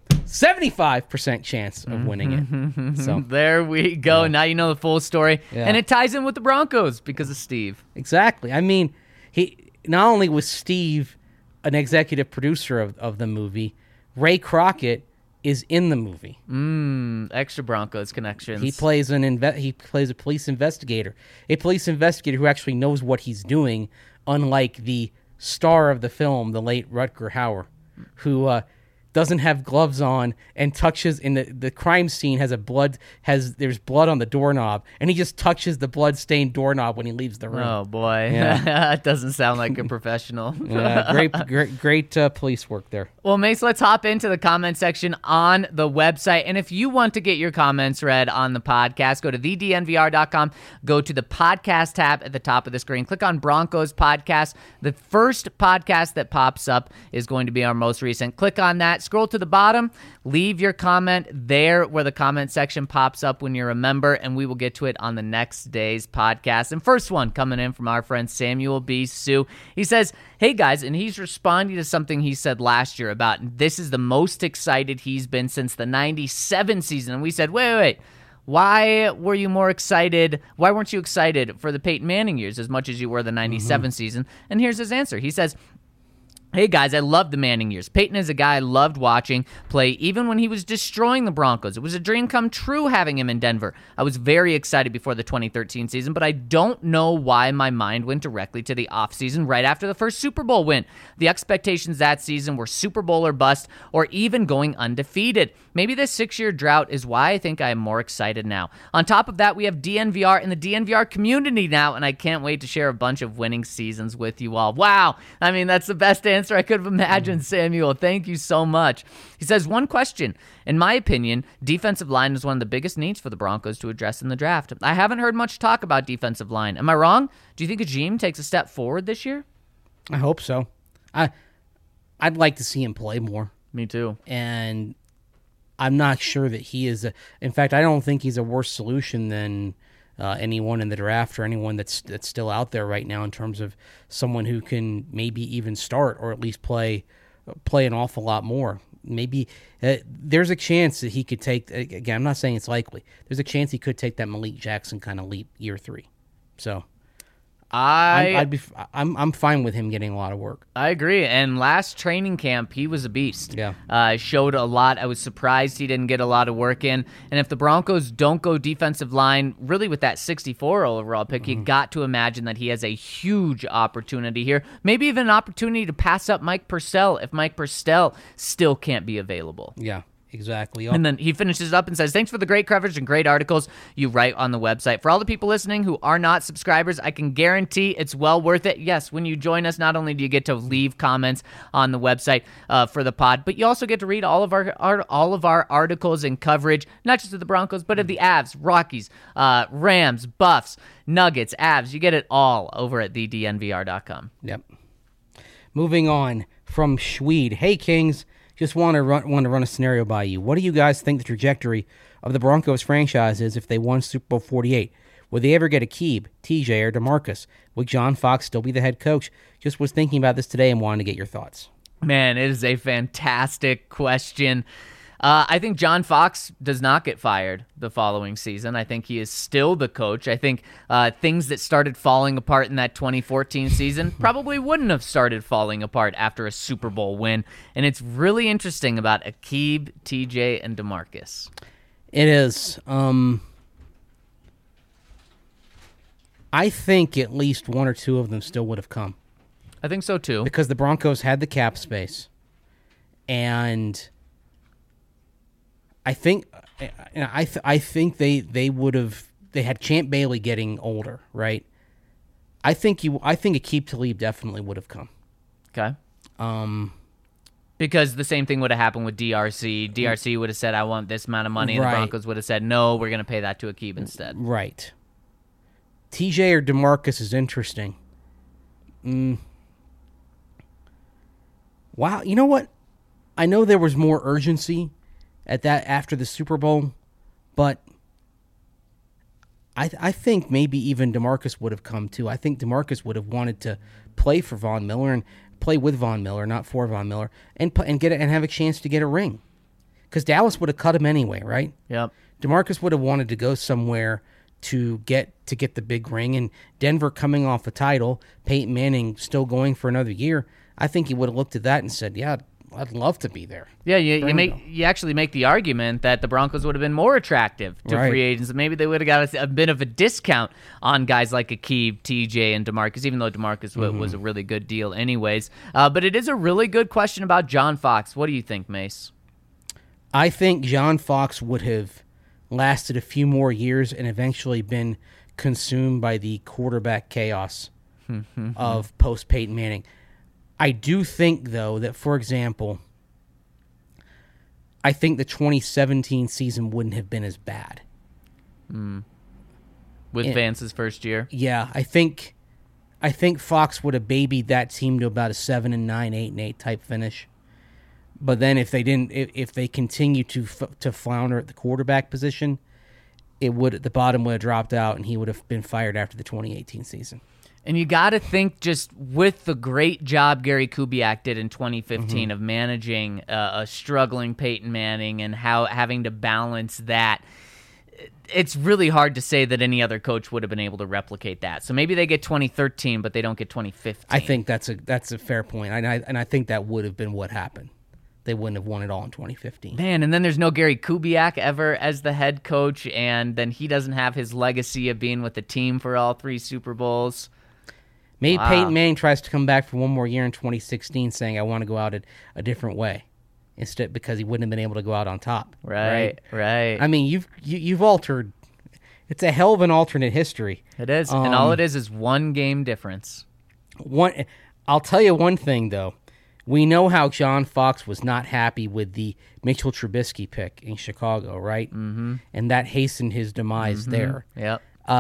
75% chance of winning it. So there we go. Yeah. Now you know the full story. Yeah. And it ties in with the Broncos because of Steve. Exactly. I mean, he not only was Steve an executive producer of the movie, Ray Crockett is in the movie. Extra Broncos connections. He plays a police investigator. A police investigator who actually knows what he's doing, unlike the star of the film, the late Rutger Hauer, who doesn't have gloves on and touches in the crime scene there's blood on the doorknob, and he just touches the blood-stained doorknob when he leaves the room. Oh boy. Yeah. That doesn't sound like a professional. Yeah, great police work there. Well, Mace, let's hop into the comment section on the website. And if you want to get your comments read on the podcast, go to thednvr.com, go to the podcast tab at the top of the screen, click on Broncos Podcast. The first podcast that pops up is going to be our most recent. Click on that. Scroll to the bottom, leave your comment there where the comment section pops up when you're a member, and we will get to it on the next day's podcast. And first one coming in from our friend Samuel B. Sue. He says, hey guys, and he's responding to something he said last year about this is the most excited he's been since the 97 season. And we said, wait. Why were you more excited? Why weren't you excited for the Peyton Manning years as much as you were the 97 season? And here's his answer. He says, hey guys, I love the Manning years. Peyton is a guy I loved watching play even when he was destroying the Broncos. It was a dream come true having him in Denver. I was very excited before the 2013 season, but I don't know why my mind went directly to the offseason right after the first Super Bowl win. The expectations that season were Super Bowl or bust, or even going undefeated. Maybe this 6-year drought is why I think I am more excited now. On top of that, we have DNVR in the DNVR community now, and I can't wait to share a bunch of winning seasons with you all. Wow. I mean, that's the best answer I could have imagined, Samuel. Thank you so much. He says, one question. In my opinion, defensive line is one of the biggest needs for the Broncos to address in the draft. I haven't heard much talk about defensive line. Am I wrong? Do you think Ajim takes a step forward this year? I hope so. I'd like to see him play more, Me too. and I'm not sure that he is. In fact, I don't think he's a worse solution than anyone in the draft or anyone that's still out there right now in terms of someone who can maybe even start or at least play an awful lot more. Maybe there's a chance that he could take. Again, I'm not saying it's likely. There's a chance he could take that Malik Jackson kind of leap year 3. So I'm fine with him getting a lot of work. I agree. And last training camp, he was a beast. Yeah. Showed a lot. I was surprised he didn't get a lot of work in. And if the Broncos don't go defensive line, really with that 64 overall pick, you got to imagine that he has a huge opportunity here. Maybe even an opportunity to pass up Mike Purcell if Mike Purcell still can't be available. Yeah. Exactly. And then he finishes up and says, thanks for the great coverage and great articles you write on the website. For all the people listening who are not subscribers, I can guarantee it's well worth it. Yes, when you join us, not only do you get to leave comments on the website for the pod, but you also get to read all of our articles and coverage, not just of the Broncos, but of the Avs, Rockies, Rams, Buffs, Nuggets, Avs. You get it all over at thednvr.com. Yep. Moving on from Schweed. Hey, Kings. Just want to run a scenario by you. What do you guys think the trajectory of the Broncos franchise is if they won Super Bowl 48? Would they ever get Aqib, TJ, or DeMarcus? Would John Fox still be the head coach? Just was thinking about this today and wanted to get your thoughts. Man, it is a fantastic question. I think John Fox does not get fired the following season. I think he is still the coach. I think things that started falling apart in that 2014 season probably wouldn't have started falling apart after a Super Bowl win. And it's really interesting about Aqib, TJ, and DeMarcus. It is. I think at least one or two of them still would have come. I think so, too. Because the Broncos had the cap space. And I think they would have. They had Champ Bailey getting older, right? I think Aqib Talib definitely would have come. Okay. Because the same thing would have happened with DRC. DRC would have said, "I want this amount of money," and Right. the Broncos would have said, "No, we're going to pay that to Aqib instead." Right. TJ or DeMarcus is interesting. Wow, you know what? I know there was more urgency at that after the Super Bowl, but I think maybe even DeMarcus would have come too. I think DeMarcus would have wanted to play for Von Miller and play with Von Miller, not for Von Miller, and get it and have a chance to get a ring, because Dallas would have cut him anyway, right? Yep. DeMarcus would have wanted to go somewhere to get the big ring, and Denver coming off a title, Peyton Manning still going for another year. I think he would have looked at that and said, "Yeah, I'd love to be there." Yeah, you actually make the argument that the Broncos would have been more attractive to Right. free agents. Maybe they would have got a bit of a discount on guys like Aqib, TJ, and DeMarcus, even though DeMarcus was a really good deal anyways. But it is a really good question about John Fox. What do you think, Mace? I think John Fox would have lasted a few more years and eventually been consumed by the quarterback chaos of post-Peyton Manning. I do think, though, that, for example, I think the 2017 season wouldn't have been as bad. With Vance's first year? Yeah, I think Fox would have babied that team to about a 7-9, 8-8 type finish. But then if they continue to flounder at the quarterback position, the bottom would have dropped out and he would have been fired after the 2018 season. And you got to think, just with the great job Gary Kubiak did in 2015 of managing a struggling Peyton Manning and having to balance that, it's really hard to say that any other coach would have been able to replicate that. So maybe they get 2013, but they don't get 2015. I think that's a fair point, and I think that would have been what happened. They wouldn't have won it all in 2015. Man, and then there's no Gary Kubiak ever as the head coach, and then he doesn't have his legacy of being with the team for all 3 Super Bowls. Maybe Wow. Peyton Manning tries to come back for one more year in 2016 saying, "I want to go out a different way," instead, because he wouldn't have been able to go out on top. Right. I mean, you've altered. It's a hell of an alternate history. It is, and all it is one game difference. I'll tell you one thing, though. We know how John Fox was not happy with the Mitchell Trubisky pick in Chicago, right? Mm-hmm. And that hastened his demise there. Yep.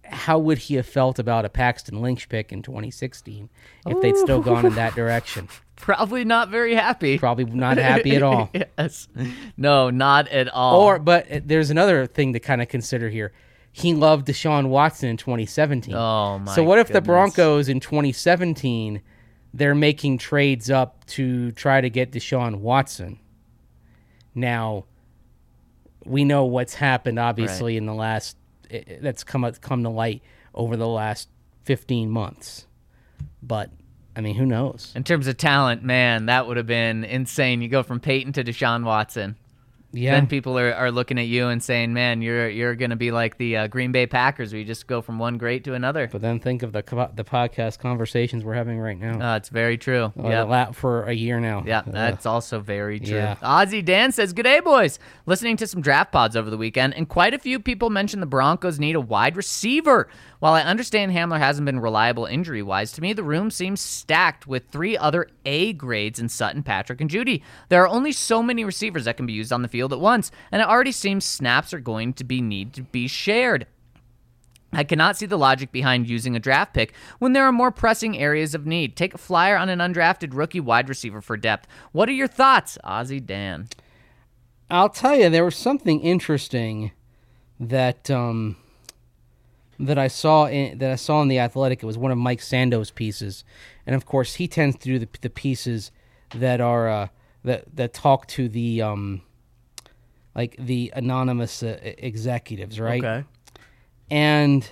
how would he have felt about a Paxton Lynch pick in 2016 if they'd still gone in that direction? Probably not very happy. Probably not happy at all. Yes. No, not at all. But there's another thing to kind of consider here. He loved Deshaun Watson in 2017. Oh, my So what if the goodness. Broncos in 2017, they're making trades up to try to get Deshaun Watson? Now, we know what's happened, obviously, in the last that's come to light over the last 15 months. But, I mean, who knows? In terms of talent, man, that would have been insane. You go from Peyton to Deshaun Watson. Yeah. Then people are looking at you and saying, man, you're going to be like the Green Bay Packers where you just go from one great to another. But then think of the podcast conversations we're having right now. It's very true. For a year now. Yeah, that's also very true. Yeah. Ozzy Dan says, "G'day, boys. Listening to some draft pods over the weekend, and quite a few people mentioned the Broncos need a wide receiver. While I understand Hamler hasn't been reliable injury-wise, to me the room seems stacked with 3 other A grades in Sutton, Patrick, and Judy. There are only so many receivers that can be used on the field at once, and it already seems snaps are going to need to be shared. I cannot see the logic behind using a draft pick when there are more pressing areas of need. Take a flyer on an undrafted rookie wide receiver for depth. What are your thoughts, Ozzy Dan?" I'll tell you, there was something interesting that I saw in The Athletic. It was one of Mike Sando's pieces, and of course he tends to do the pieces that are that talk to the like the anonymous executives, right? Okay. And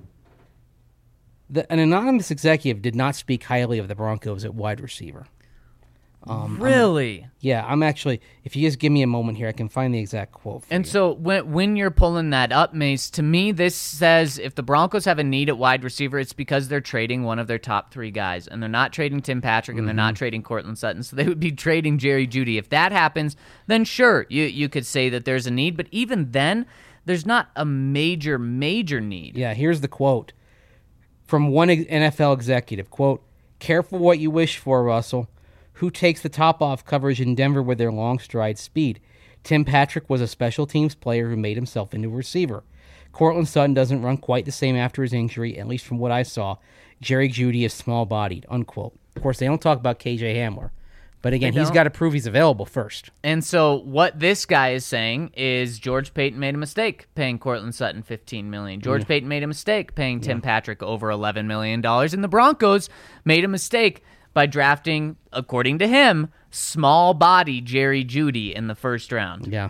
an anonymous executive did not speak highly of the Broncos at wide receiver. Really? I'm actually, if you just give me a moment here, I can find the exact quote for And you. so when you're pulling that up, Mace, to me this says if the Broncos have a need at wide receiver, it's because they're trading one of their top 3 guys, and they're not trading Tim Patrick, and they're not trading Cortland Sutton, so they would be trading Jerry Jeudy. If that happens, then sure, you could say that there's a need, but even then, there's not a major need. Yeah, here's the quote from one NFL executive, quote, "Careful what you wish for, Russell. Who takes the top off coverage in Denver with their long stride speed? Tim Patrick was a special teams player who made himself into a receiver. Cortland Sutton doesn't run quite the same after his injury, at least from what I saw. Jerry Jeudy is small-bodied," unquote. Of course, they don't talk about KJ Hamler. But again, he's got to prove he's available first. And so what this guy is saying is George Payton made a mistake paying Cortland Sutton $15 million. George Payton made a mistake paying Tim Patrick over $11 million. And the Broncos made a mistake by drafting, according to him, small-body Jerry Jeudy in the first round. Yeah.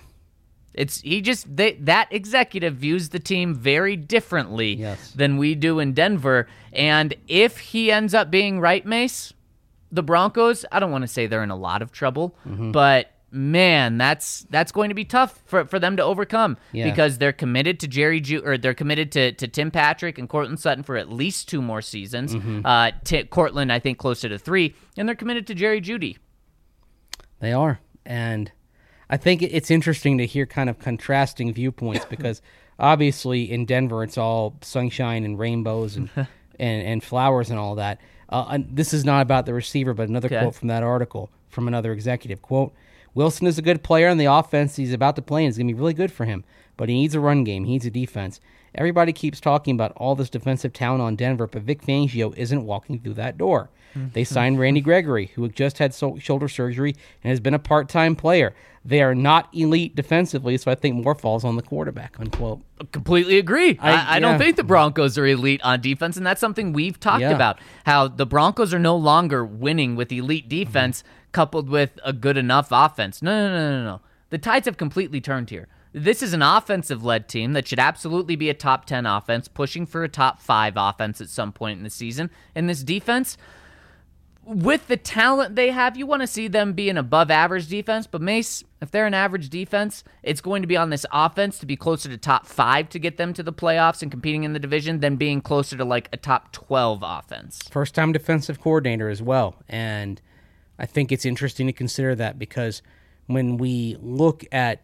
That executive views the team very differently than we do in Denver. And if he ends up being right, Mace, the Broncos, I don't want to say they're in a lot of trouble, but man, that's going to be tough for them to overcome because they're committed to they're committed to Tim Patrick and Cortland Sutton for at least 2 more seasons. Cortland, I think, closer to 3, and they're committed to Jerry Jeudy. They are, and I think it's interesting to hear kind of contrasting viewpoints because obviously in Denver it's all sunshine and rainbows and flowers and all that. This is not about the receiver, but another quote from that article from another executive. Quote, "Wilson is a good player, and the offense he's about to play is going to be really good for him, but he needs a run game. He needs a defense. Everybody keeps talking about all this defensive talent on Denver, but Vic Fangio isn't walking through that door. They signed Randy Gregory, who just had shoulder surgery and has been a part-time player. They are not elite defensively, so I think more falls on the quarterback," unquote. Completely agree. I don't think the Broncos are elite on defense, and that's something we've talked about, how the Broncos are no longer winning with elite defense coupled with a good enough offense. No. The tides have completely turned here. This is an offensive-led team that should absolutely be a top 10 offense, pushing for a top 5 offense at some point in the season. And this defense, with the talent they have, you want to see them be an above-average defense. But Mace, if they're an average defense, it's going to be on this offense to be closer to top 5 to get them to the playoffs and competing in the division than being closer to like a top 12 offense. First-time defensive coordinator as well. And I think it's interesting to consider that because when we look at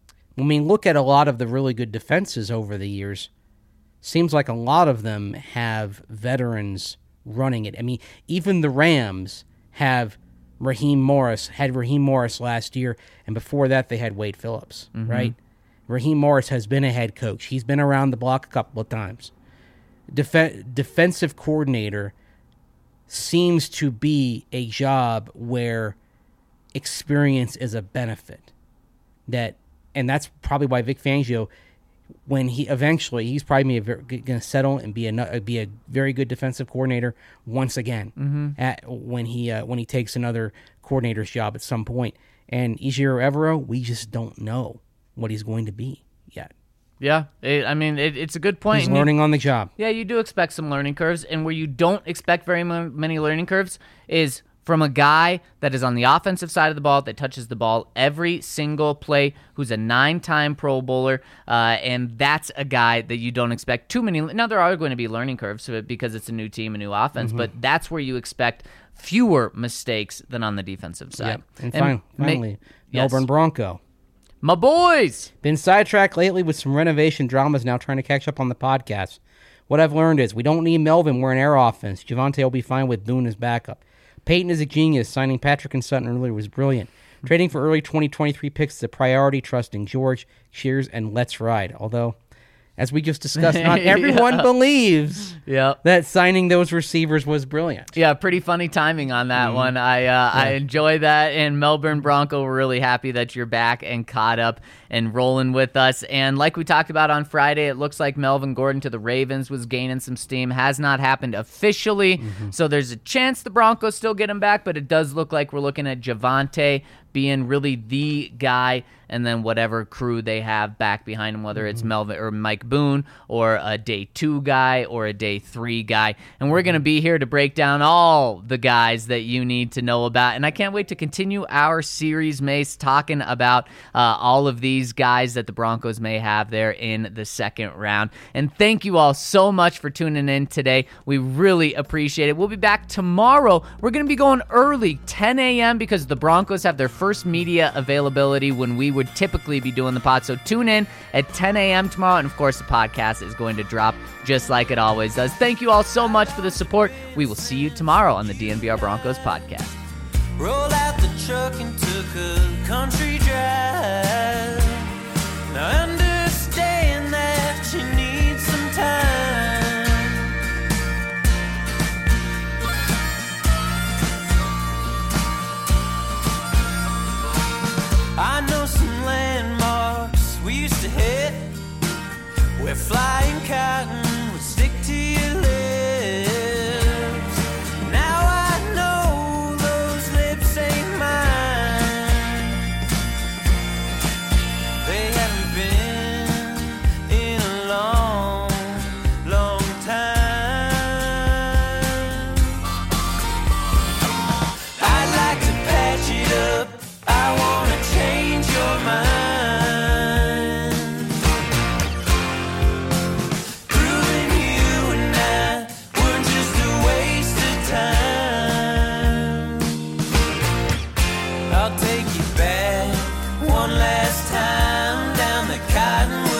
a lot of the really good defenses over the years, seems like a lot of them have veterans running it. I mean, even the Rams have Raheem Morris last year, and before that they had Wade Phillips, right? Raheem Morris has been a head coach. He's been around the block a couple of times. defensive coordinator seems to be a job where experience is a benefit. And that's probably why Vic Fangio, when he's probably going to settle and be a very good defensive coordinator once again when he takes another coordinator's job at some point. And Ejiro Evero, we just don't know what he's going to be yet. Yeah, it's a good point. He's learning on the job. Yeah, you do expect some learning curves, and where you don't expect very many learning curves is from a guy that is on the offensive side of the ball, that touches the ball every single play, who's a 9-time Pro Bowler, and that's a guy that you don't expect too many. Now, there are going to be learning curves because it's a new team, a new offense, but that's where you expect fewer mistakes than on the defensive side. Yep. And finally, Melbourne Bronco. My boys! Been sidetracked lately with some renovation dramas, now trying to catch up on the podcast. What I've learned is we don't need Melvin. We're an air offense. Javonte will be fine with Boone as backup. Peyton is a genius. Signing Patrick and Sutton earlier was brilliant. Trading for early 2023 picks is a priority, trusting George. Cheers and let's ride. Although, as we just discussed, not everyone believes that signing those receivers was brilliant. Yeah, pretty funny timing on that one. I enjoy that, and Melbourne Bronco, we're really happy that you're back and caught up and rolling with us. And like we talked about on Friday, it looks like Melvin Gordon to the Ravens was gaining some steam. Has not happened officially, so there's a chance the Broncos still get him back, but it does look like we're looking at Javonte being really the guy, and then whatever crew they have back behind him, whether it's Melvin or Mike Boone or a day 2 guy or a day 3 guy. And we're going to be here to break down all the guys that you need to know about. And I can't wait to continue our series, Mace, talking about all of these guys that the Broncos may have there in the second round. And thank you all so much for tuning in today. We really appreciate it. We'll be back tomorrow. We're going to be going early, 10 a.m., because the Broncos have their first media availability when we would typically be doing the pod. So tune in at 10 a.m. tomorrow, and of course the podcast is going to drop just like it always does. Thank you all so much for the support. We will see you tomorrow on the DNVR Broncos podcast. Rolled out the truck and took a country drive. Now understand that you need some time. I know some landmarks we used to hit, where flying cotton would stick to your lips. Now I know those lips ain't mine. They haven't been in a long, long time. I'd like to patch it up. I wanna change your mind. Proving you and I weren't just a waste of time. I'll take you back one last time down the Cottonwood